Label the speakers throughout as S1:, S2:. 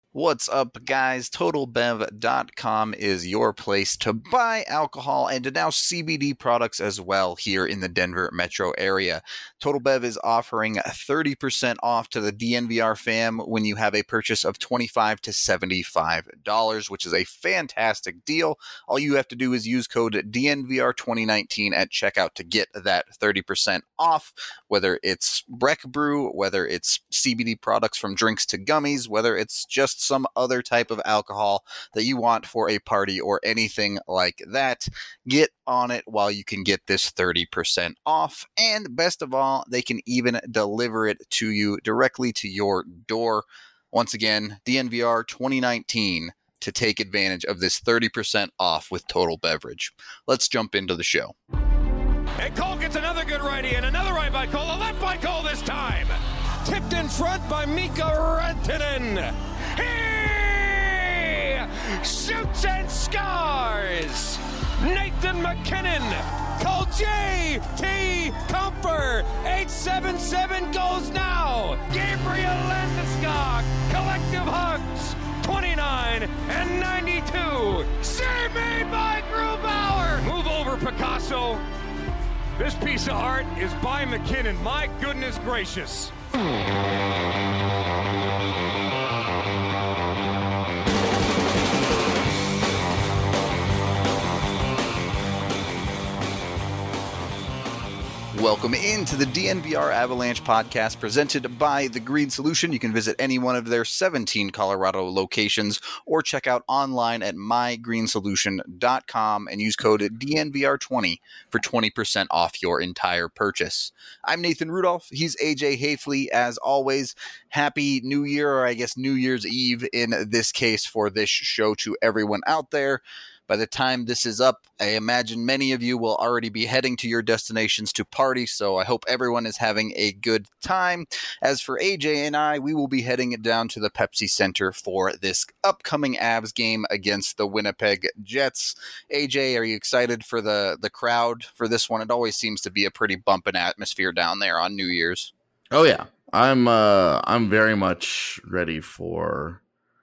S1: What's up, guys? TotalBev.com is your place to buy alcohol and now CBD products as well here in the Denver metro area. Total Bev is offering 30% off to the DNVR fam when you have a purchase of $25 to $75, which is a fantastic deal. All you have to do is use code DNVR2019 at checkout to get that 30% off, whether it's Breck Brew, whether it's CBD products from drinks to gummies, whether it's just some other type of alcohol that you want for a party or anything like that. Get on it while you can get this 30% off. And best of all, they can even deliver it to you directly to your door. Once again, DNVR 2019 to take advantage of this 30% off with Total Beverage. Let's jump into the show.
S2: And Cole gets another good righty and another right by Cole, a left by Cole this time. Tipped in front by Mika Rantanen. He shoots and scores. Nathan MacKinnon. Cole J.T. Comfer. 877 goes now. Gabriel Landeskog. Collective hugs. 29 and 92. Save made by Grubauer. Move over, Picasso. This piece of art is by McKinnon. My goodness gracious.
S1: Welcome into the DNVR Avalanche podcast presented by The Green Solution. You can visit any one of their 17 Colorado locations or check out online at mygreensolution.com and use code DNVR20 for 20% off your entire purchase. I'm Nathan Rudolph. He's AJ Hafley. As always, happy New Year, or I guess New Year's Eve in this case for this show to everyone out there. By the time this is up, I imagine many of you will already be heading to your destinations to party, so I hope everyone is having a good time. As for AJ and I, we will be heading down to the Pepsi Center for this upcoming Avs game against the Winnipeg Jets. AJ, are you excited for the crowd for this one? It always seems to be a pretty bumping atmosphere down there on New Year's.
S3: Oh yeah, I'm very much ready for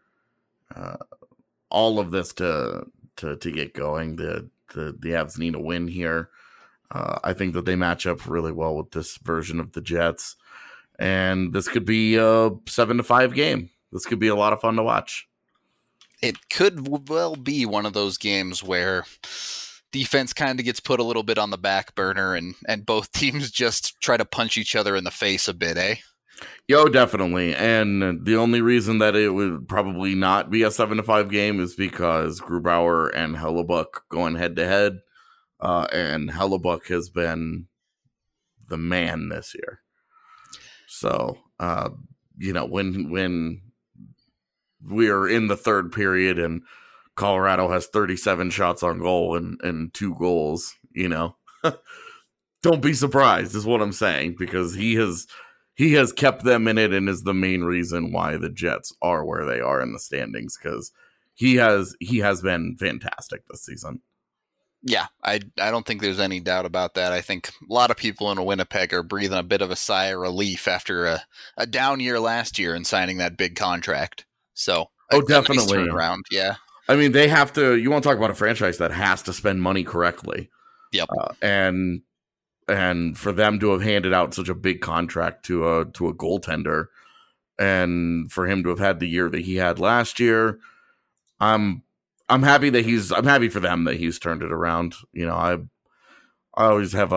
S3: all of this to get going. The Avs need a win here. I think that they match up really well with this version of the Jets, and this could be a 7-5 game. This could be a lot of fun to watch.
S1: It could well be one of those games where defense kind of gets put a little bit on the back burner and both teams just try to punch each other in the face a bit, eh?
S3: Yo, definitely. And the only reason that it would probably not be a 7-5 game is because Grubauer and Hellebuyck going head to head. And Hellebuyck has been the man this year. So, when we are in the third period and Colorado has 37 shots on goal and 2 goals, don't be surprised is what I'm saying, because he has kept them in it and is the main reason why the Jets are where they are in the standings, because he has been fantastic this season.
S1: Yeah, I don't think there's any doubt about that. I think a lot of people in Winnipeg are breathing a bit of a sigh of relief after a down year last year and signing that big contract. So,
S3: definitely.
S1: Nice turnaround, yeah.
S3: I mean, they have to. You want to talk about a franchise that has to spend money correctly.
S1: Yep.
S3: And for them to have handed out such a big contract to a goaltender, and for him to have had the year that he had last year, I'm happy that I'm happy for them that he's turned it around. I always have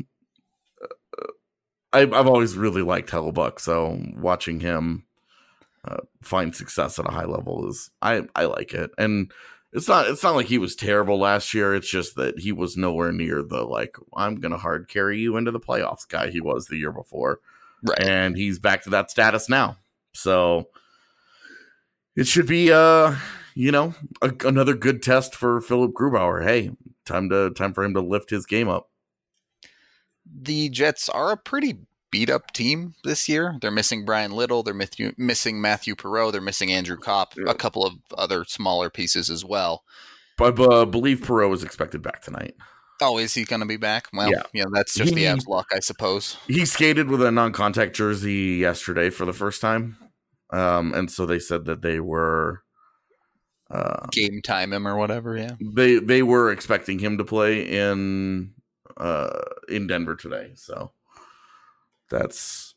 S3: I've always really liked Hellebuyck, so watching him find success at a high level I like it. And it's not like he was terrible last year. It's just that he was nowhere near the I'm gonna hard carry you into the playoffs guy he was the year before.
S1: Right.
S3: And he's back to that status now. So it should be another good test for Philip Grubauer. Hey, time for him to lift his game up.
S1: The Jets are a pretty beat up team this year. They're missing Brian Little. They're missing Matthew Perreault. They're missing Andrew Kopp. Yeah. A couple of other smaller pieces as well.
S3: But I believe Perreault is expected back tonight.
S1: Oh, is he going to be back? Well, that's just the Avs luck, I suppose.
S3: He skated with a non-contact jersey yesterday for the first time. And so they said that they were
S1: game time him or whatever. Yeah,
S3: they were expecting him to play in Denver today. So that's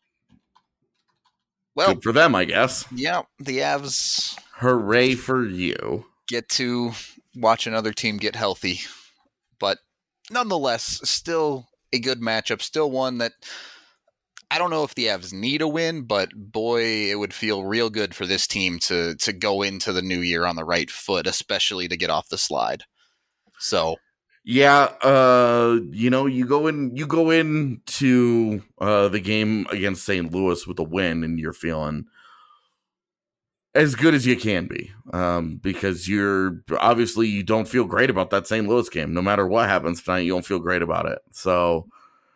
S3: good for them, I guess.
S1: Yeah, the Avs.
S3: Hooray for you!
S1: Get to watch another team get healthy, but nonetheless, still a good matchup. Still one that I don't know if the Avs need a win, but boy, it would feel real good for this team to go into the new year on the right foot, especially to get off the slide. So,
S3: yeah, you go into the game against St. Louis with a win, and you're feeling as good as you can be, because you don't feel great about that St. Louis game. No matter what happens tonight, you don't feel great about it. So,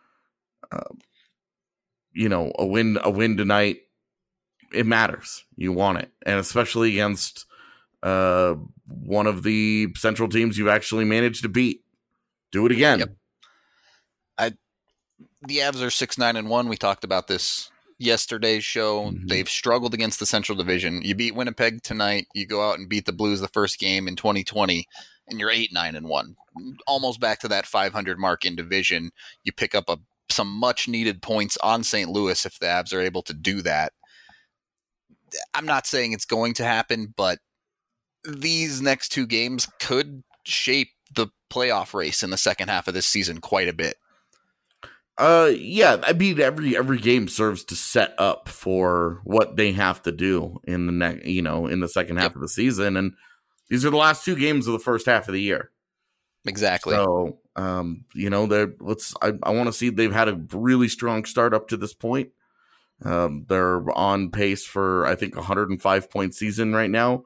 S3: a win tonight, it matters. You want it, and especially against one of the Central teams you've actually managed to beat. Do it again.
S1: Yep. The Avs are 6-9-1. We talked about this yesterday's show. Mm-hmm. They've struggled against the Central Division. You beat Winnipeg tonight. You go out and beat the Blues the first game in 2020, and you're 8-9-1, almost back to that 500 mark in division. You pick up some much needed points on St. Louis if the Avs are able to do that. I'm not saying it's going to happen, but these next two games could shape the playoff race in the second half of this season quite a bit.
S3: Yeah, I mean every game serves to set up for what they have to do in the in the second half of the season, and these are the last two games of the first half of the year.
S1: Exactly.
S3: So, I want to see. They've had a really strong start up to this point. They're on pace for, I think, 105-point season right now.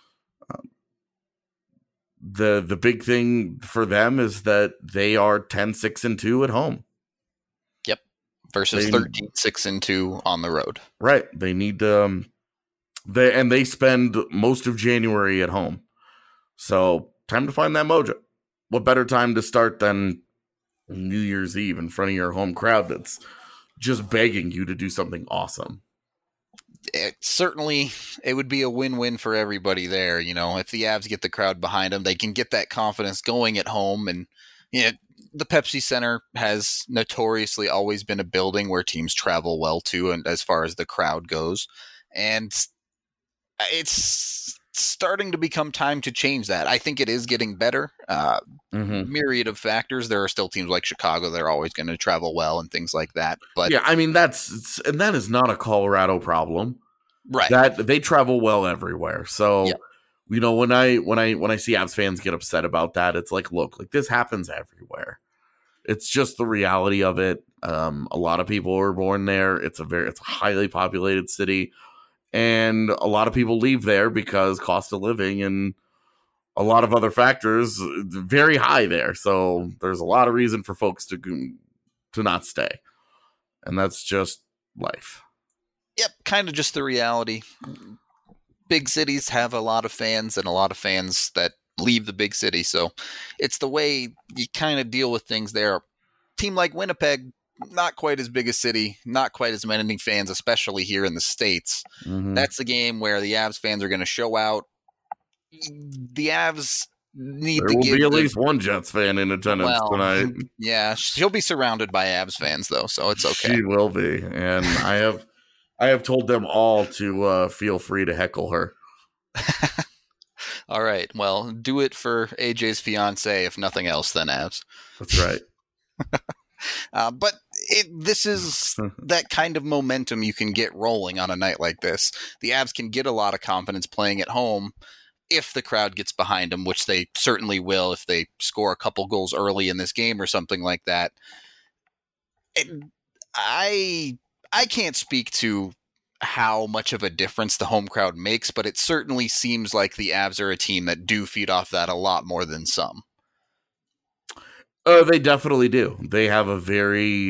S3: The big thing for them is that they are 10-6-2 at home.
S1: Yep. Versus 13-6-2 on the road.
S3: Right. They need they spend most of January at home. So time to find that mojo. What better time to start than New Year's Eve in front of your home crowd that's just begging you to do something awesome?
S1: It would be a win-win for everybody there. If the Avs get the crowd behind them, they can get that confidence going at home. And the Pepsi Center has notoriously always been a building where teams travel well to, and as far as the crowd goes. And it's starting to become time to change that. I think it is getting better. Myriad of factors. There are still teams like Chicago that are always going to travel well and things like that. But
S3: yeah, I mean that is not a Colorado problem,
S1: right?
S3: That they travel well everywhere. So when I see Avs fans get upset about that, it's like, look, this happens everywhere. It's just the reality of it. A lot of people are born there. It's a highly populated city. And a lot of people leave there because cost of living and a lot of other factors very high there. So there's a lot of reason for folks to not stay. And that's just life.
S1: Yep, kind of just the reality. Big cities have a lot of fans and a lot of fans that leave the big city. So it's the way you kind of deal with things there. Team like Winnipeg, not quite as big a city, not quite as many fans, especially here in the States.
S3: Mm-hmm.
S1: That's the game where the Avs fans are going to show out. The Avs need to give...
S3: There will be at least one Jets fan in attendance tonight.
S1: Yeah, she'll be surrounded by Avs fans, though, so it's okay.
S3: She will be, and I have told them all to feel free to heckle her.
S1: All right, well, do it for AJ's fiance, if nothing else, then Avs.
S3: That's right.
S1: But this is that kind of momentum you can get rolling on a night like this. The Avs can get a lot of confidence playing at home if the crowd gets behind them, which they certainly will if they score a couple goals early in this game or something like that. I can't speak to how much of a difference the home crowd makes, but it certainly seems like the Avs are a team that do feed off that a lot more than some.
S3: They definitely do. They have a very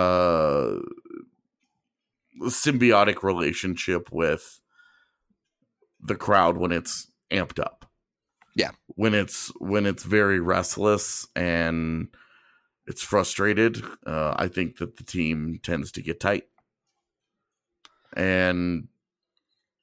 S3: symbiotic relationship with the crowd when it's amped up.
S1: Yeah.
S3: When it's very restless and it's frustrated, I think that the team tends to get tight. And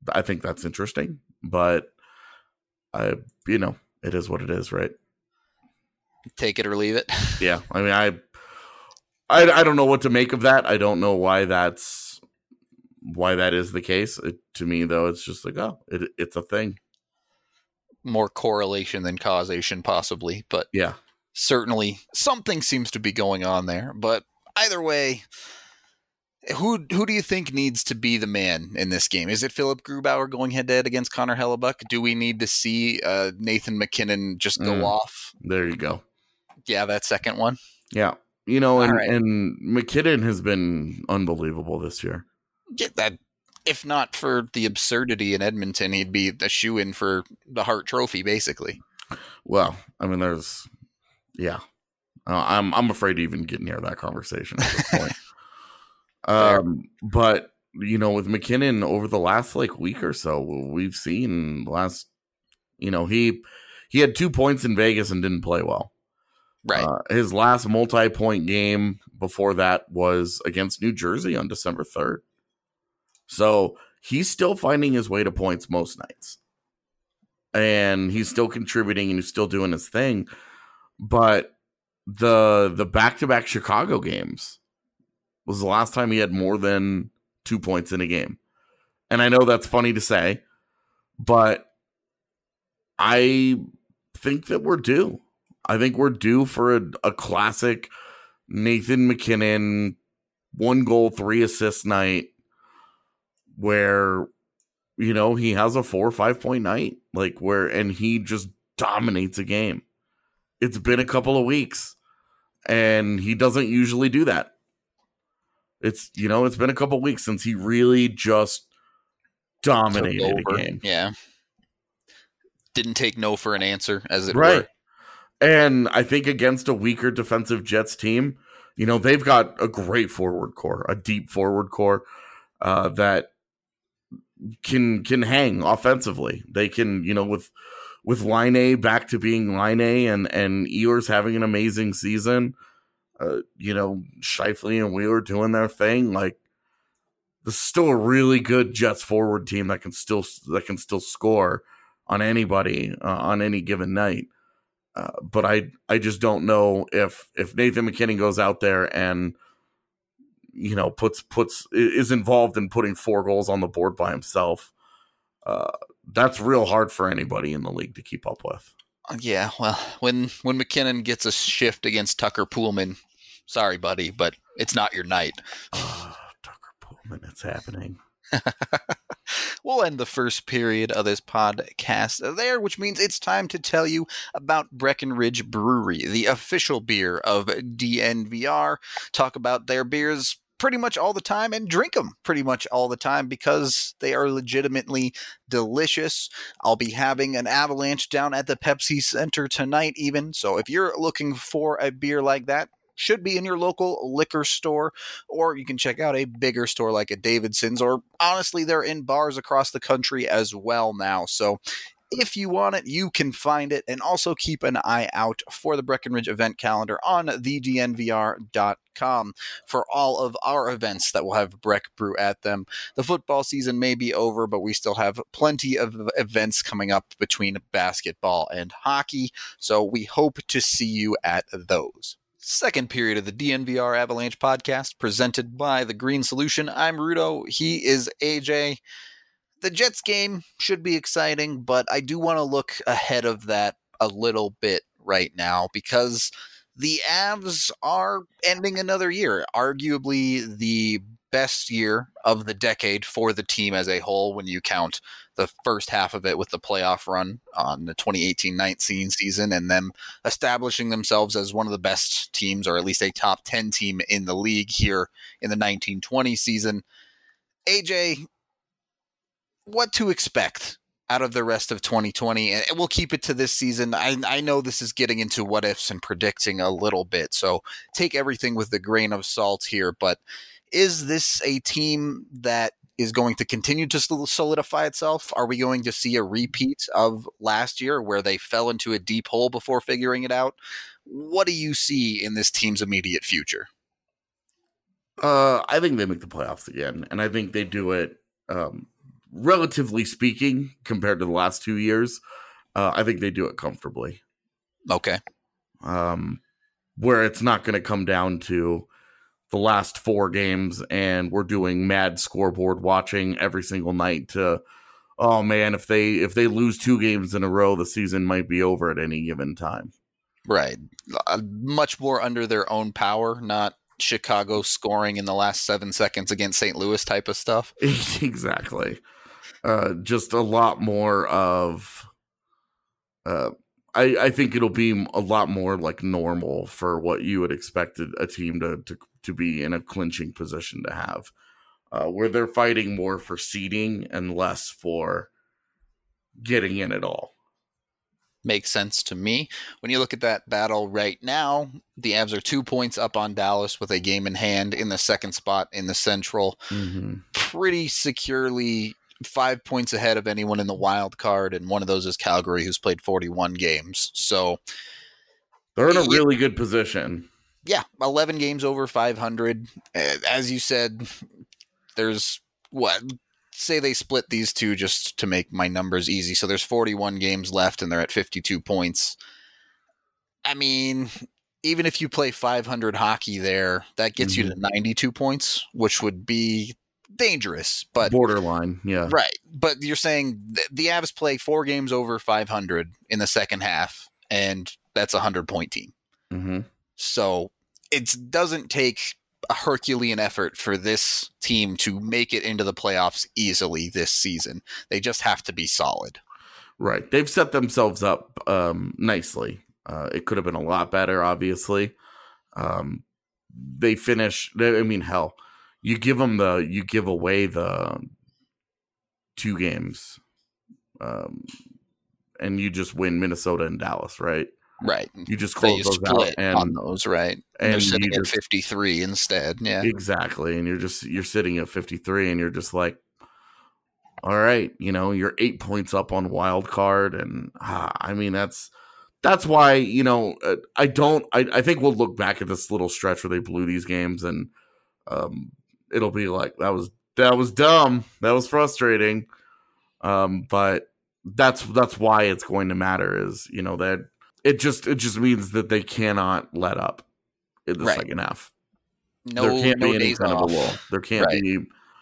S3: I think that's interesting, but it is what it is, right?
S1: Take it or leave it.
S3: Yeah. I mean, I don't know what to make of that. I don't know why that is the case. To me, though, it's just like, it's a thing.
S1: More correlation than causation, possibly, but
S3: yeah,
S1: certainly something seems to be going on there. But either way, who do you think needs to be the man in this game? Is it Philip Grubauer going head-to-head against Connor Hellebuck? Do we need to see Nathan MacKinnon just go off?
S3: There you go.
S1: Yeah, that second one.
S3: Yeah. And MacKinnon has been unbelievable this year.
S1: Yeah, that, if not for the absurdity in Edmonton, he'd be a shoe-in for the Hart Trophy, basically.
S3: Well, I mean, I'm afraid to even get near that conversation at this point. But with MacKinnon over the last week or so, we've seen he had 2 points in Vegas and didn't play well.
S1: Right.
S3: His last multi-point game before that was against New Jersey on December 3rd. So he's still finding his way to points most nights. And he's still contributing and he's still doing his thing. But the back-to-back Chicago games was the last time he had more than 2 points in a game. And I know that's funny to say, but I think that we're due. I think we're due for a classic Nathan MacKinnon 1 goal, 3 assist night where, he has a 4 or 5 point night, and he just dominates a game. It's been a couple of weeks and he doesn't usually do that. It's been a couple of weeks since he really just dominated a game.
S1: Yeah. Didn't take no for an answer, as it
S3: right.
S1: were.
S3: And I think against a weaker defensive Jets team, they've got a great forward core, a deep forward core that can hang offensively. They can, with Laine back to being Laine and Ehlers having an amazing season, Scheifele and Wheeler doing their thing. This is still a really good Jets forward team that can still score on anybody on any given night. But I just don't know if Nathan MacKinnon goes out there and is involved in putting 4 goals on the board by himself. That's real hard for anybody in the league to keep up with.
S1: Yeah, well, when MacKinnon gets a shift against Tucker Poolman, sorry, buddy, but it's not your night.
S3: Tucker Poolman, it's happening.
S1: We'll end the first period of this podcast there, which means it's time to tell you about Breckenridge Brewery, the official beer of DNVR. Talk about their beers pretty much all the time and drink them pretty much all the time because they are legitimately delicious. I'll be having an Avalanche down at the Pepsi Center tonight even, so if you're looking for a beer like that, should be in your local liquor store, or you can check out a bigger store like a Davidson's, or honestly, they're in bars across the country as well now. So if you want it, you can find it, and also keep an eye out for the Breckenridge event calendar on thednvr.com for all of our events that will have Breck Brew at them. The football season may be over, but we still have plenty of events coming up between basketball and hockey, so we hope to see you at those. Second period of the DNVR Avalanche podcast presented by The Green Solution. I'm Rudo. He is AJ. The Jets game should be exciting, but I do want to look ahead of that a little bit right now because the Avs are ending another year, arguably the best year of the decade for the team as a whole when you count the first half of it with the playoff run on the 2018-19 season and them establishing themselves as one of the best teams, or at least a top 10 team in the league here in the 1920 season. AJ, what to expect out of the rest of 2020? And we'll keep it to this season. I know this is getting into what ifs and predicting a little bit, so take everything with a grain of salt here, but is this a team that is going to continue to solidify itself? Are we going to see a repeat of last year where they fell into a deep hole before figuring it out? What do you see in this team's immediate future?
S3: I think they make the playoffs again, and I think they do it relatively speaking, compared to the last 2 years, I think they do it comfortably.
S1: Okay.
S3: Where it's not going to come down to the last 4 games and we're doing mad scoreboard watching every single night to, oh man, if they lose 2 games in a row, the season might be over at any given time.
S1: Right. Much more under their own power, not Chicago scoring in the last 7 seconds against St. Louis type of stuff.
S3: Exactly. Just a lot more of, I think it'll be a lot more like normal for what you would expect a team to be in a clinching position to have, where they're fighting more for seeding and less for getting in at all.
S1: Makes sense to me. When you look at that battle right now, the Avs are 2 points up on Dallas with a game in hand in the second spot in the Central.
S3: Mm-hmm.
S1: Pretty securely 5 points ahead of anyone in the wild card, and one of those is Calgary, who's played 41 games. So
S3: they're in a really good position.
S1: Yeah, 11 games over 500. As you said, there's say they split these two just to make my numbers easy. So there's 41 games left and they're at 52 points. I mean, even if you play 500 hockey there, that gets you to 92 points, which would be dangerous, but
S3: borderline. Yeah.
S1: Right. But you're saying the Avs play 4 games over 500 in the second half, and that's a 100-point team.
S3: Mm-hmm.
S1: So it doesn't take a Herculean effort for this team to make it into the playoffs easily this season. They just have to be solid.
S3: Right. They've set themselves up nicely. It could have been a lot better, obviously. They finish. I mean, hell, you give away the 2 games, and you just win Minnesota and Dallas, right?
S1: Right.
S3: You just close those out
S1: on those, right? And they're sitting at 53 instead. Yeah.
S3: Exactly. And you're sitting at 53 and you're just like, all right, you're 8 points up on wild card. And I mean, that's why, I think we'll look back at this little stretch where they blew these games and it'll be like, that was dumb. That was frustrating. But that's why it's going to matter is, that it just means that they cannot let up in the second half. There can't be any kind of a lull. There can't be,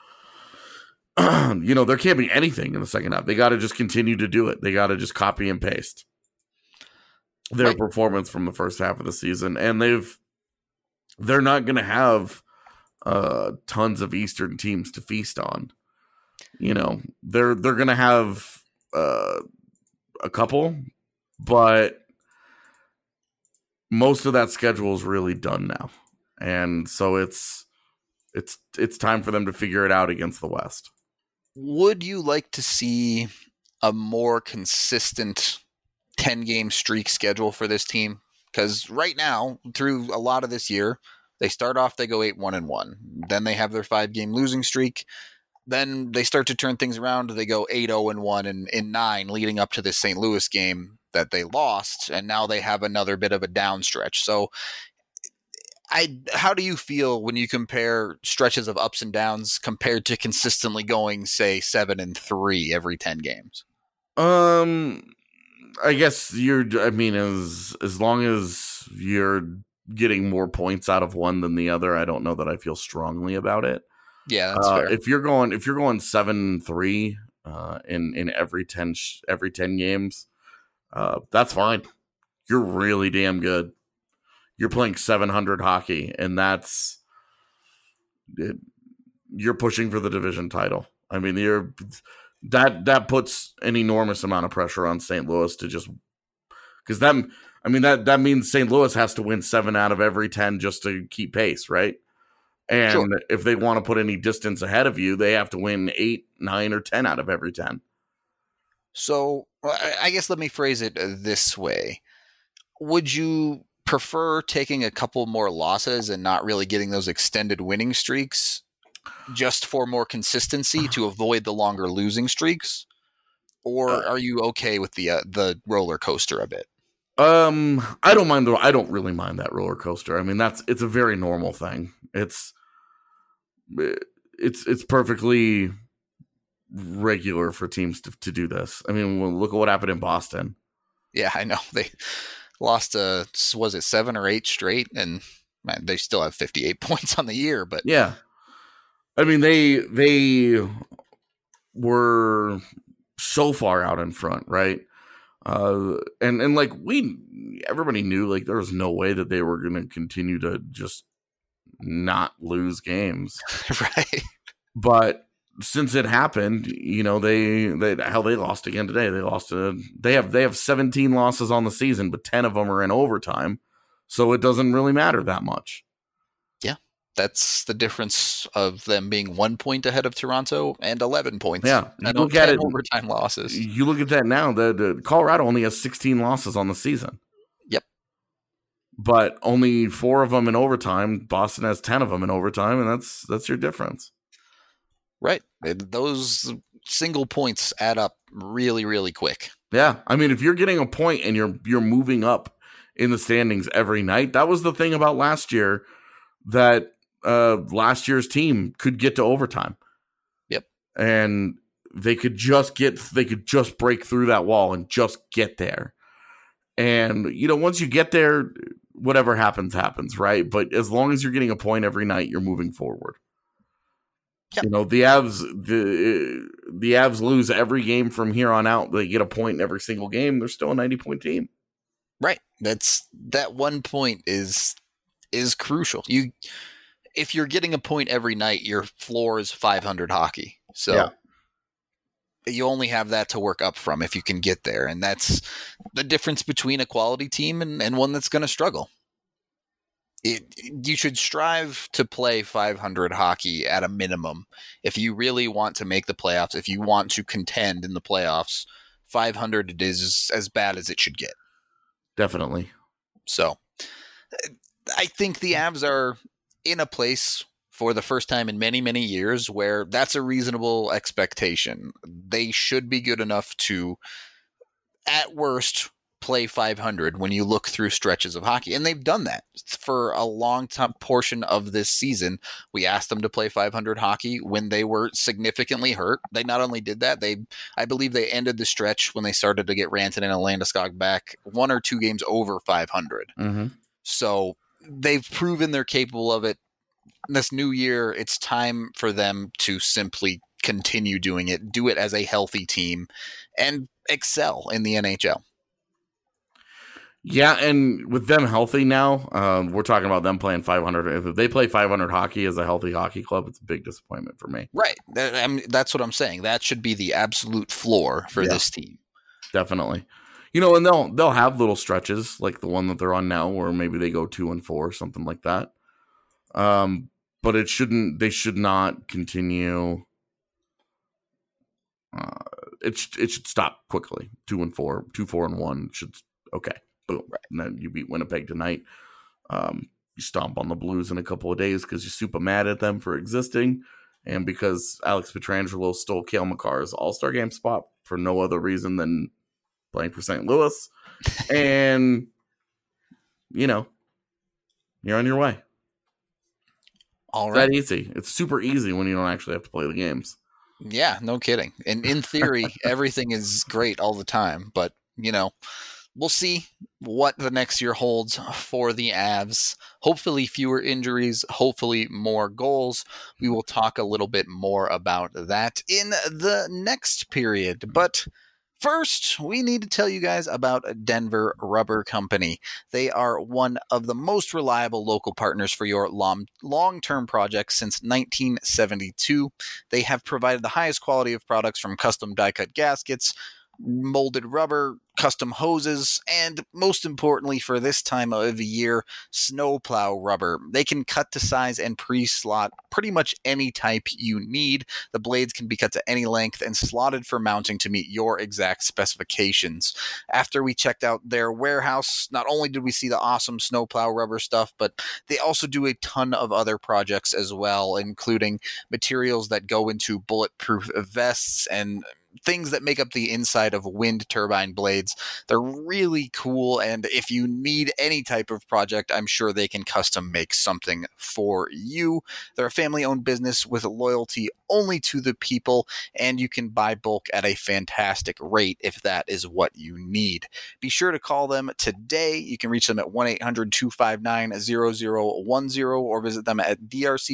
S3: there can't be anything in the second half. They got to just continue to do it. They got to just copy and paste their performance from the first half of the season. And they're not going to have tons of Eastern teams to feast on. They're going to have a couple, but most of that schedule is really done now. And so it's time for them to figure it out against the West.
S1: Would you like to see a more consistent 10-game streak schedule for this team? Because right now, through a lot of this year, they start off, they go 8-1-1. Then they have their 5-game losing streak. Then they start to turn things around. They go 8-0-1 and in 9 leading up to this St. Louis game that they lost. And now they have another bit of a down stretch. So how do you feel when you compare stretches of ups and downs compared to consistently going, say, 7-3 every 10 games?
S3: I guess as long as you're getting more points out of one than the other, I don't know that I feel strongly about it.
S1: Yeah, that's fair.
S3: If you're going 7-3 in every 10 games, that's fine. You're really damn good. You're playing 700 hockey, and you're pushing for the division title. I mean, that puts an enormous amount of pressure on St. Louis to just because that means St. Louis has to win 7 out of every 10 just to keep pace, right? And if they want to put any distance ahead of you, they have to win 8, 9, or 10 out of every 10.
S1: So I guess let me phrase it this way. Would you prefer taking a couple more losses and not really getting those extended winning streaks just for more consistency to avoid the longer losing streaks? Or are you okay with the roller coaster a bit?
S3: I don't really mind that roller coaster. I mean, it's a very normal thing. It's perfectly regular for teams to do this. I mean, look at what happened in Boston.
S1: Yeah, I know. They lost, was it 7 or 8 straight? And man, they still have 58 points on the year. But
S3: yeah, I mean, they were so far out in front, right? And like everybody knew like there was no way that they were going to continue to just not lose games.
S1: Right.
S3: But since it happened, you know, they lost again today. They have 17 losses on the season, but 10 of them are in overtime. So it doesn't really matter that much.
S1: Yeah. That's the difference of them being 1 point ahead of Toronto and 11 points.
S3: Yeah.
S1: You look at it, overtime losses.
S3: You look at that now, the Colorado only has 16 losses on the season.
S1: Yep.
S3: But only 4 of them in overtime. Boston has 10 of them in overtime, and that's your difference.
S1: Right. Those single points add up really, really quick.
S3: Yeah. I mean, if you're getting a point and you're moving up in the standings every night, that was the thing about last year, that last year's team could get to overtime.
S1: Yep.
S3: And they could just break through that wall and just get there. And, you know, once you get there, whatever happens, right? But as long as you're getting a point every night, you're moving forward. Yep. You know, the Avs lose every game from here on out. They get a point in every single game. They're still a 90-point team.
S1: Right. That 1 point is crucial. If you're getting a point every night, your floor is 500 hockey. So you only have that to work up from if you can get there. And that's the difference between a quality team and one that's going to struggle. You should strive to play 500 hockey at a minimum. If you really want to make the playoffs, if you want to contend in the playoffs, 500 is as bad as it should get.
S3: Definitely.
S1: So I think the Avs are in a place for the first time in many, many years where that's a reasonable expectation. They should be good enough to, at worst, play 500 when you look through stretches of hockey. And they've done that for a long time portion of this season. We asked them to play 500 hockey when they were significantly hurt. They not only did that, I believe they ended the stretch when they started to get Rantanen and Landeskog back 1 or 2 games over 500.
S3: Mm-hmm.
S1: So they've proven they're capable of it. This new year, it's time for them to simply continue doing it, do it as a healthy team, and excel in the NHL.
S3: Yeah, and with them healthy now, we're talking about them playing 500. If they play 500 hockey as a healthy hockey club, it's a big disappointment for me.
S1: Right. That's what I'm saying. That should be the absolute floor for this team.
S3: Definitely. You know, and they'll have little stretches like the one that they're on now, where maybe they go 2-4, something like that. But they should not continue. It should stop quickly. 2-4, 2-4-1 should okay. Boom. Right. And then you beat Winnipeg tonight. You stomp on the Blues in a couple of days because you're super mad at them for existing, and because Alex Pietrangelo stole Cale Makar's All-Star game spot for no other reason than playing for St. Louis. And, you know, you're on your way.
S1: All right.
S3: That easy. It's super easy when you don't actually have to play the games.
S1: Yeah, no kidding. And in theory, everything is great all the time. But, you know, we'll see what the next year holds for the Avs. Hopefully fewer injuries, hopefully more goals. We will talk a little bit more about that in the next period. But first, we need to tell you guys about Denver Rubber Company. They are one of the most reliable local partners for your long-term projects since 1972. They have provided the highest quality of products from custom die-cut gaskets, molded rubber, custom hoses, and most importantly for this time of the year, snowplow rubber. They can cut to size and pre-slot pretty much any type you need. The blades can be cut to any length and slotted for mounting to meet your exact specifications. After we checked out their warehouse, not only did we see the awesome snowplow rubber stuff, but they also do a ton of other projects as well, including materials that go into bulletproof vests and things that make up the inside of wind turbine blades. They're really cool, and if you need any type of project, I'm sure they can custom make something for you. They're a family-owned business with loyalty only to the people, and you can buy bulk at a fantastic rate if that is what you need. Be sure to call them today. You can reach them at 1-800-259-0010 or visit them at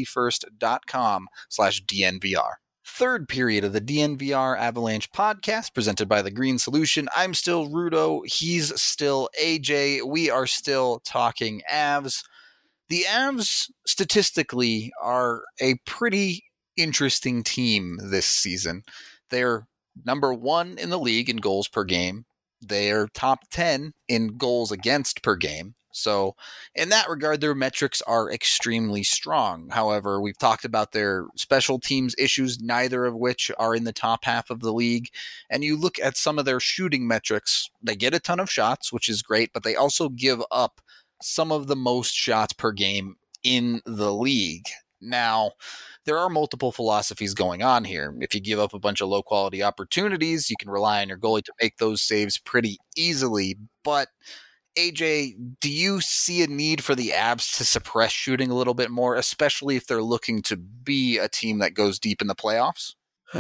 S1: drcfirst.com/DNVR. Third period of the DNVR Avalanche podcast presented by The Green Solution. I'm still Rudo. He's still AJ. We are still talking Avs. The Avs statistically are a pretty interesting team this season. They're number 1 in the league in goals per game. They're top 10 in goals against per game. So in that regard, their metrics are extremely strong. However, we've talked about their special teams issues, neither of which are in the top half of the league. And you look at some of their shooting metrics, they get a ton of shots, which is great, but they also give up some of the most shots per game in the league. Now, there are multiple philosophies going on here. If you give up a bunch of low-quality opportunities, you can rely on your goalie to make those saves pretty easily. But, AJ, do you see a need for the Avs to suppress shooting a little bit more, especially if they're looking to be a team that goes deep in the playoffs?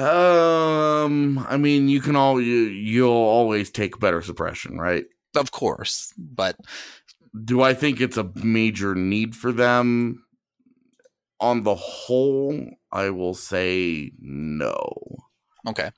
S3: I mean, you'll always take better suppression, right?
S1: Of course, but
S3: do I think it's a major need for them? On the whole, I will say no.
S1: Okay.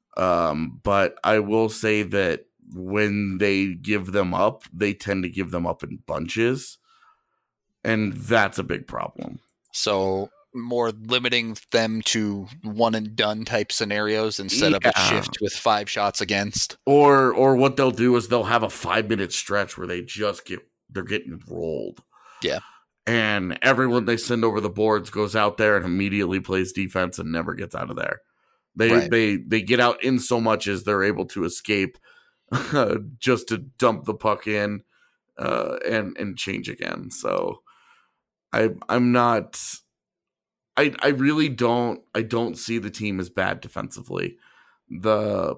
S3: But I will say that when they give them up, they tend to give them up in bunches, and that's a big problem.
S1: So more limiting them to one and done type scenarios instead of a shift with 5 shots against.
S3: Or what they'll do is they'll have a 5-minute stretch where they're getting rolled.
S1: Yeah.
S3: And everyone they send over the boards goes out there and immediately plays defense and never gets out of there. They get out in so much as they're able to escape just to dump the puck in and change again. So I'm not. I really don't. I don't see the team as bad defensively. The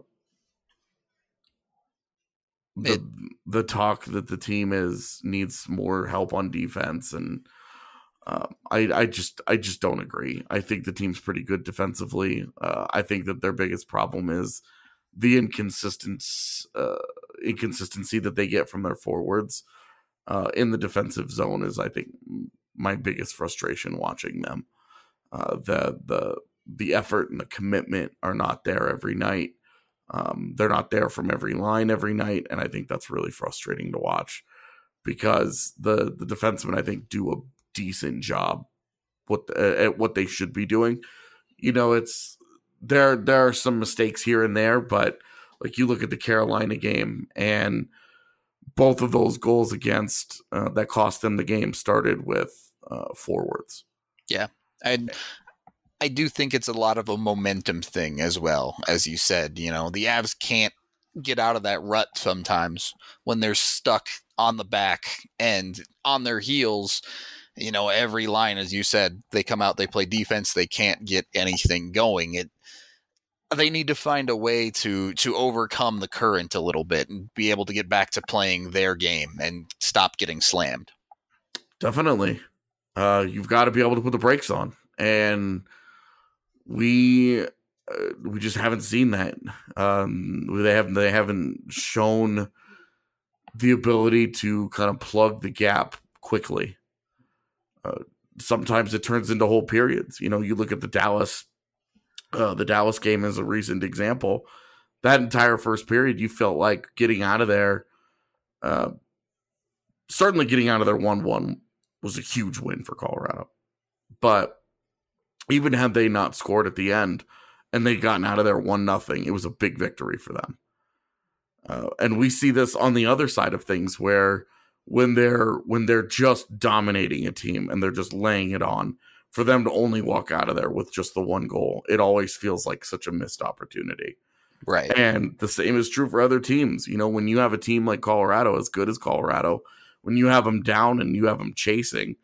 S3: talk that the team needs more help on defense, and I just don't agree. I think the team's pretty good defensively. I think that their biggest problem is the inconsistency that they get from their forwards in the defensive zone is, I think, my biggest frustration watching them. The effort and the commitment are not there every night. They're not there from every line every night, and I think that's really frustrating to watch because the defensemen, I think, do a decent job at what they should be doing. You know, there are some mistakes here and there, but like you look at the Carolina game, and both of those goals against that cost them the game started with forwards.
S1: Yeah, I do think it's a lot of a momentum thing as well, as you said. You know, the Avs can't get out of that rut sometimes when they're stuck on the back and on their heels. You know, every line, as you said, they come out, they play defense, they can't get anything going. They need to find a way to overcome the current a little bit and be able to get back to playing their game and stop getting slammed.
S3: Definitely. You've got to be able to put the brakes on. And we just haven't seen that. They haven't shown the ability to kind of plug the gap quickly. Sometimes it turns into whole periods. You know, you look at the Dallas game as a recent example. That entire first period, you felt like getting out of there. Certainly getting out of there 1-1 was a huge win for Colorado. But even had they not scored at the end and they'd gotten out of there 1-0, it was a big victory for them. And we see this on the other side of things where when they're just dominating a team and they're just laying it on, for them to only walk out of there with just the one goal, it always feels like such a missed opportunity.
S1: Right.
S3: And the same is true for other teams. You know, when you have a team like Colorado, as good as Colorado, when you have them down and you have them chasing,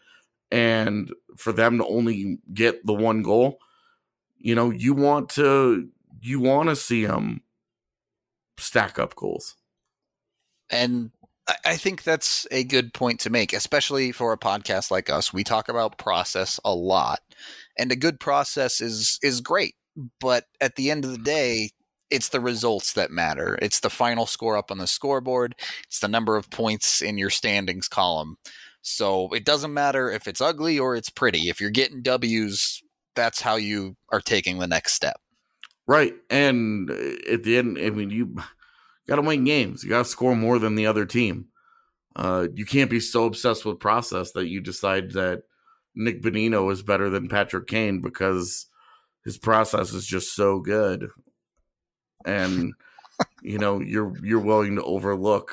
S3: and for them to only get the one goal, you know, you want to you want to see them stack up goals.
S1: And I think that's a good point to make, especially for a podcast like us. We talk about process a lot, and a good process is great. But at the end of the day, it's the results that matter. It's the final score up on the scoreboard. It's the number of points in your standings column. So it doesn't matter if it's ugly or it's pretty. If you're getting W's, that's how you are taking the next step.
S3: Right. And at the end, I mean, you got to win games. You got to score more than the other team. You can't be so obsessed with process that you decide that Nick Bonino is better than Patrick Kane because his process is just so good. And, you're willing to overlook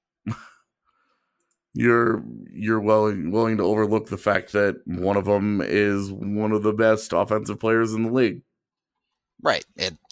S3: you're willing to overlook the fact that one of them is one of the best offensive players in the league.
S1: Right.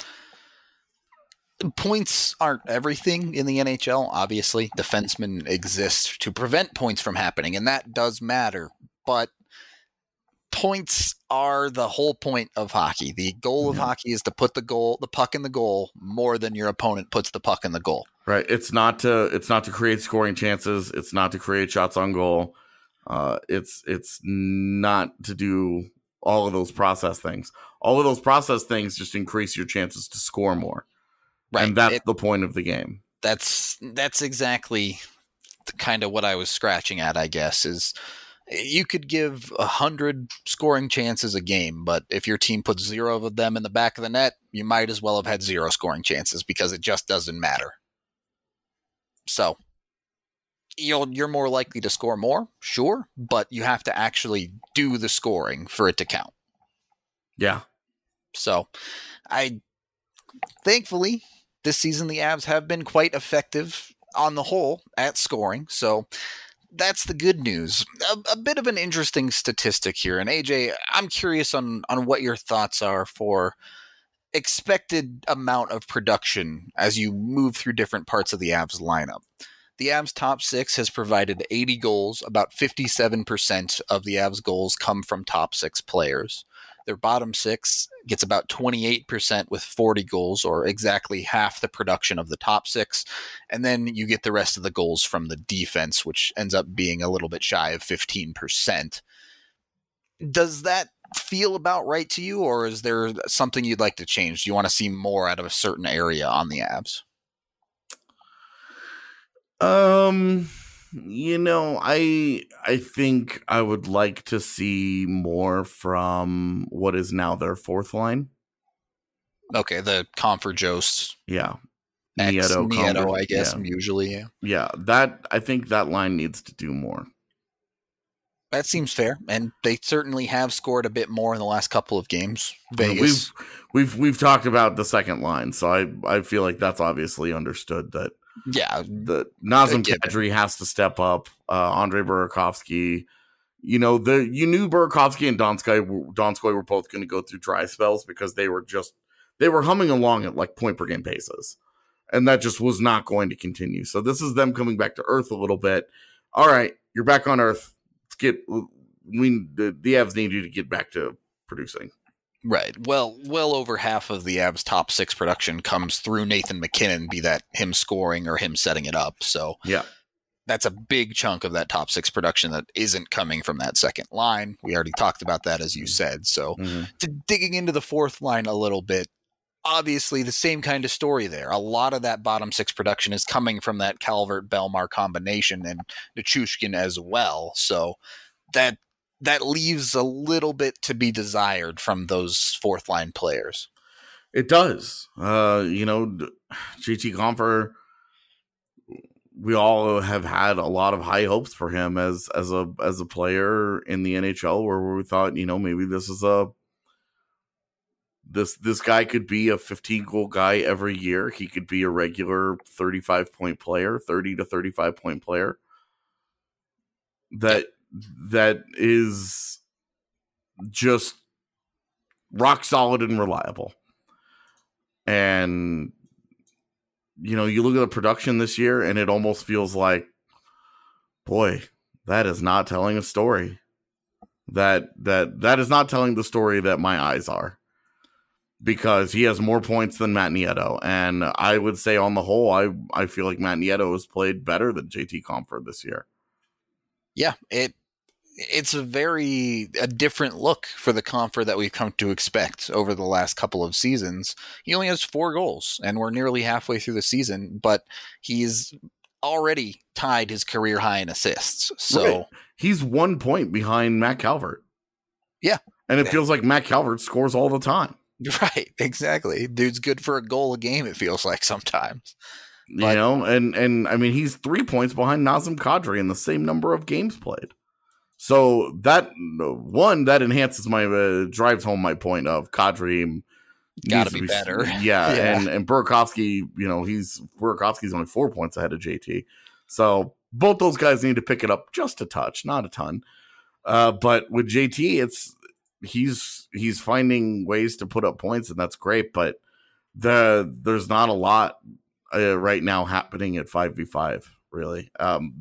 S1: Points aren't everything in the NHL. Obviously, defensemen exist to prevent points from happening, and that does matter. But points are the whole point of hockey. The goal of hockey is to put the puck in the goal more than your opponent puts the puck in the goal.
S3: Right. It's not to create scoring chances. It's not to create shots on goal. It's not to do all of those process things. All of those process things just increase your chances to score more. Right. And that's the point of the game.
S1: That's exactly kind of what I was scratching at, I guess, is you could give 100 scoring chances a game, but if your team puts 0 of them in the back of the net, you might as well have had 0 scoring chances because it just doesn't matter. So you're more likely to score more, sure, but you have to actually do the scoring for it to count.
S3: Yeah.
S1: So thankfully, this season the Avs have been quite effective on the whole at scoring. So that's the good news. A bit of an interesting statistic here. And AJ, I'm curious on what your thoughts are for expected amount of production as you move through different parts of the Avs lineup. The Avs top 6 has provided 80 goals. About 57% of the Avs goals come from top 6 players. Their bottom 6 gets about 28% with 40 goals, or exactly half the production of the top 6. And then you get the rest of the goals from the defense, which ends up being a little bit shy of 15%. Does that feel about right to you, or is there something you'd like to change? Do you want to see more out of a certain area on the Avs?
S3: I think I would like to see more from what is now their fourth line.
S1: Okay, the Comfort Jost.
S3: Yeah.
S1: Nieto, I guess, usually. Yeah.
S3: Yeah, I think that line needs to do more.
S1: That seems fair, and they certainly have scored a bit more in the last couple of games. Vegas.
S3: We've talked about the second line, so I feel like that's obviously understood that.
S1: Yeah,
S3: the Nazem Kadri has to step up. Andrei Burakovsky, you knew Burakovsky and Donskoy were both going to go through dry spells because they were humming along at like point per game paces, and that just was not going to continue. So this is them coming back to earth a little bit. All right, you're back on earth. The Avs need you to get back to producing.
S1: Right. Well over half of the Avs' top 6 production comes through Nathan MacKinnon, be that him scoring or him setting it up. So
S3: yeah,
S1: that's a big chunk of that top 6 production that isn't coming from that second line. We already talked about that, as you said. So digging into the fourth line a little bit, obviously the same kind of story there. A lot of that bottom 6 production is coming from that Calvert-Belmar combination and Nichushkin as well. So that leaves a little bit to be desired from those fourth line players.
S3: It does. JT Compher, we all have had a lot of high hopes for him as a player in the NHL, where we thought, maybe this is this guy could be a 15 goal guy every year. He could be a regular 35 point player, 30 to 35 point player. That is just rock solid and reliable. And, you look at the production this year and it almost feels like, boy, that is not telling a story. That is not telling the story that my eyes are. because he has more points than Matt Nieto. And I would say on the whole, I feel like Matt Nieto has played better than JT Compher this year.
S1: Yeah, it's a different look for the Compher that we've come to expect over the last couple of seasons. He only has 4 goals, and we're nearly halfway through the season, but he's already tied his career high in assists. So
S3: right. He's 1 point behind Matt Calvert.
S1: Yeah.
S3: And it feels like Matt Calvert scores all the time.
S1: Right, exactly. Dude's good for a goal a game, it feels like sometimes.
S3: But, and I mean, he's 3 points behind Nazem Kadri in the same number of games played. So that enhances drives home my point of Kadri
S1: got to be better.
S3: Yeah, yeah. And Burakovsky, Burakovsky's only 4 points ahead of JT. So both those guys need to pick it up just a touch, not a ton. But with JT, he's finding ways to put up points, and that's great. But there's not a lot right now happening at 5v5, really.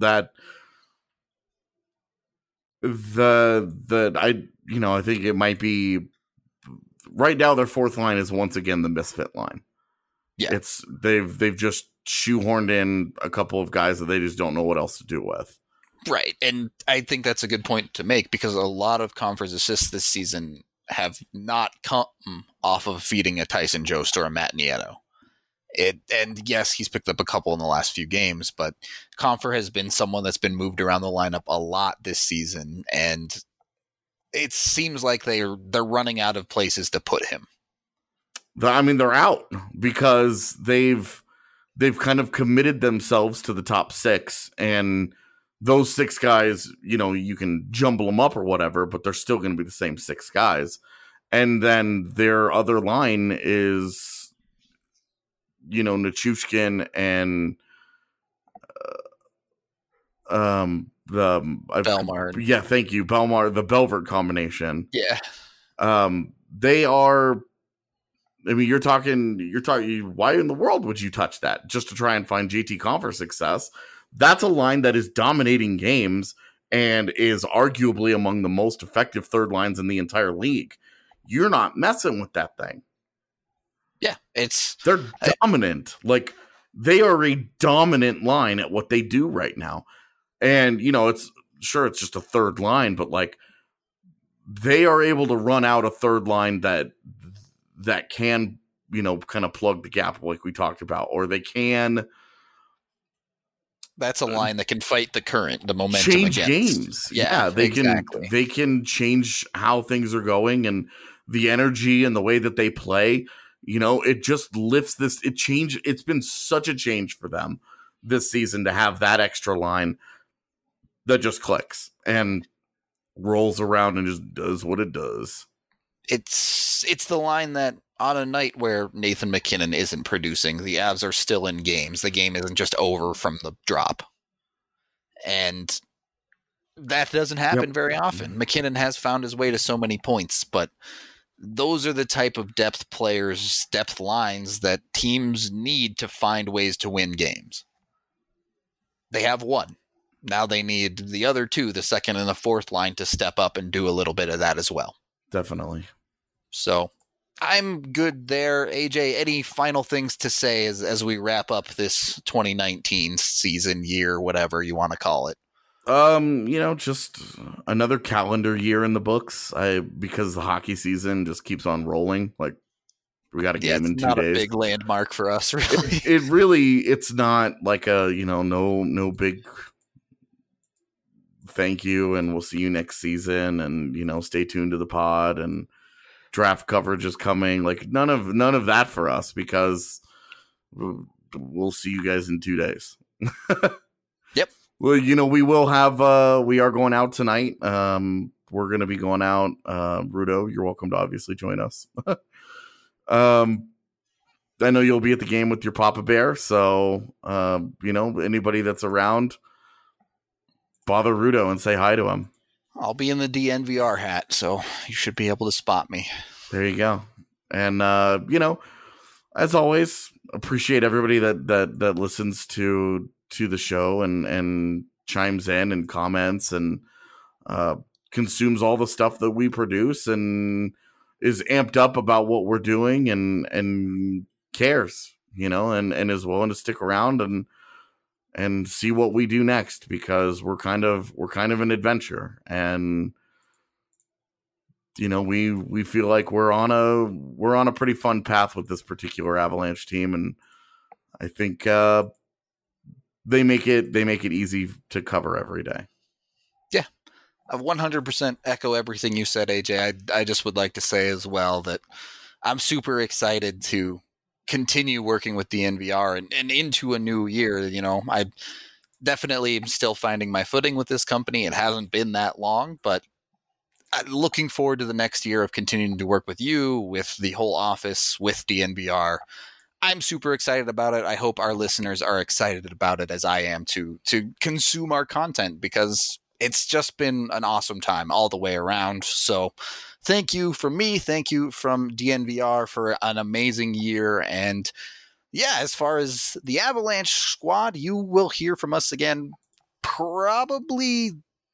S3: I think it might be right now. Their fourth line is once again the misfit line.
S1: Yeah,
S3: they've just shoehorned in a couple of guys that they just don't know what else to do with.
S1: Right, and I think that's a good point to make because a lot of Compher's assists this season have not come off of feeding a Tyson Jost or a Matt Nieto. And yes, he's picked up a couple in the last few games, but Compher has been someone that's been moved around the lineup a lot this season, and it seems like they're running out of places to put him.
S3: I mean, they're out because they've kind of committed themselves to the top 6, and those 6 guys, you can jumble them up or whatever, but they're still going to be the same 6 guys. And then their other line is, Nichushkin and
S1: Belmar.
S3: Yeah, thank you, Belmar, the Belvert combination.
S1: Yeah.
S3: They are. I mean, you're talking. Why in the world would you touch that just to try and find JT Compher success? That's a line that is dominating games and is arguably among the most effective third lines in the entire league. You're not messing with that thing.
S1: Yeah,
S3: they're dominant. Like, they are a dominant line at what they do right now. And, it's just a third line, but like, they are able to run out a third line that can, kind of plug the gap like we talked about, or they can.
S1: That's a line that can fight the momentum
S3: change
S1: against.
S3: Games. Yeah, they can change how things are going and the energy and the way that they play. It just lifts this. It's been such a change for them this season to have that extra line that just clicks and rolls around and just does what it does.
S1: It's the line that on a night where Nathan MacKinnon isn't producing, the Avs are still in games. The game isn't just over from the drop. And that doesn't happen very often. MacKinnon has found his way to so many points, but those are the type of depth lines that teams need to find ways to win games. They have one. Now they need the other 2, the second and the fourth line, to step up and do a little bit of that as well.
S3: Definitely.
S1: So I'm good there. AJ, any final things to say as we wrap up this 2019 season, year, whatever you want to call it?
S3: Just another calendar year in the books. Because the hockey season just keeps on rolling. Like, we got a game in 2 days.
S1: Not a big landmark for us, really.
S3: It's not like a, no big thank you and we'll see you next season and, stay tuned to the pod and draft coverage is coming. Like, none of that for us because we'll see you guys in 2 days.
S1: Yep.
S3: Well, we will have, we are going out tonight. We're going to be going out. Rudo, you're welcome to obviously join us. I know you'll be at the game with your Papa Bear. So, anybody that's around, bother Rudo and say hi to him.
S1: I'll be in the DNVR hat, so you should be able to spot me.
S3: There you go. And, as always, appreciate everybody that listens to the show and chimes in and comments and consumes all the stuff that we produce and amped up about what we're doing and cares, and is willing to stick around and see what we do next, because we're kind of an adventure, and we feel like we're on a pretty fun path with this particular Avalanche team, and I think they make it easy to cover every day.
S1: Yeah, I 100% echo everything you said, AJ. I just would like to say as well that I'm super excited to continue working with DNVR and into a new year. I definitely am still finding my footing with this company. It hasn't been that long, but I'm looking forward to the next year of continuing to work with you, with the whole office, with DNVR. I'm super excited about it. I hope our listeners are excited about it as I am to consume our content, because it's just been an awesome time all the way around. So thank you from me. Thank you from DNVR for an amazing year. And yeah, as far as the Avalanche squad, you will hear from us again probably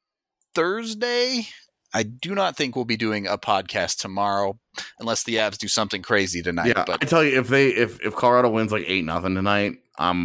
S1: Thursday. I do not think we'll be doing a podcast tomorrow unless the Avs do something crazy tonight.
S3: Yeah,
S1: but
S3: I tell you, if Colorado wins like 8-0 tonight,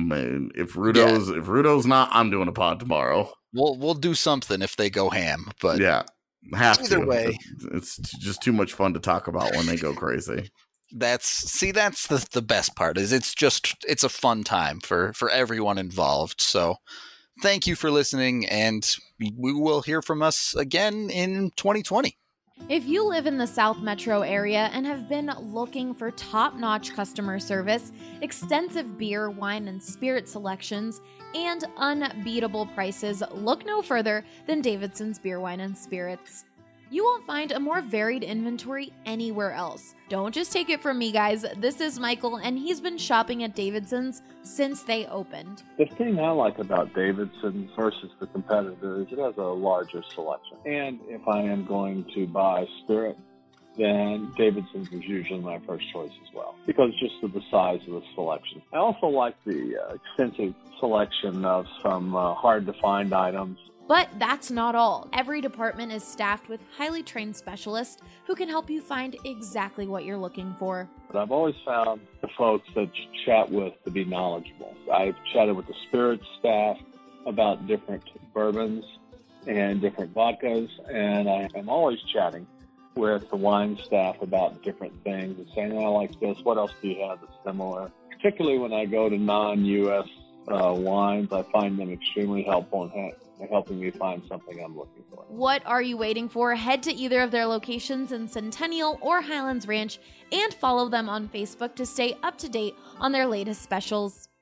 S3: if Rudo's not, I'm doing a pod tomorrow.
S1: We'll do something if they go ham. But
S3: yeah,
S1: either way,
S3: it's just too much fun to talk about when they go crazy.
S1: That's the best part, is it's a fun time for everyone involved. So thank you for listening, and we will hear from us again in 2020.
S4: If you live in the South Metro area and have been looking for top-notch customer service, extensive beer, wine, and spirit selections, and unbeatable prices, look no further than Davidson's Beer, Wine, and Spirits. You won't find a more varied inventory anywhere else. Don't just take it from me, guys. This is Michael, and he's been shopping at Davidson's since they opened.
S5: The thing I like about Davidson's versus the competitor is it has a larger selection. And if I am going to buy spirit, then Davidson's is usually my first choice as well, because just of the size of the selection. I also like the extensive selection of some hard-to-find items.
S4: But that's not all. Every department is staffed with highly trained specialists who can help you find exactly what you're looking for.
S5: But I've always found the folks that you chat with to be knowledgeable. I've chatted with the spirits staff about different bourbons and different vodkas, and I am always chatting with the wine staff about different things and saying, I like this, what else do you have that's similar? Particularly when I go to non-U.S. wines, I find them extremely helpful in helping me find something I'm looking for.
S4: What are you waiting for? Head to either of their locations in Centennial or Highlands Ranch and follow them on Facebook to stay up to date on their latest specials.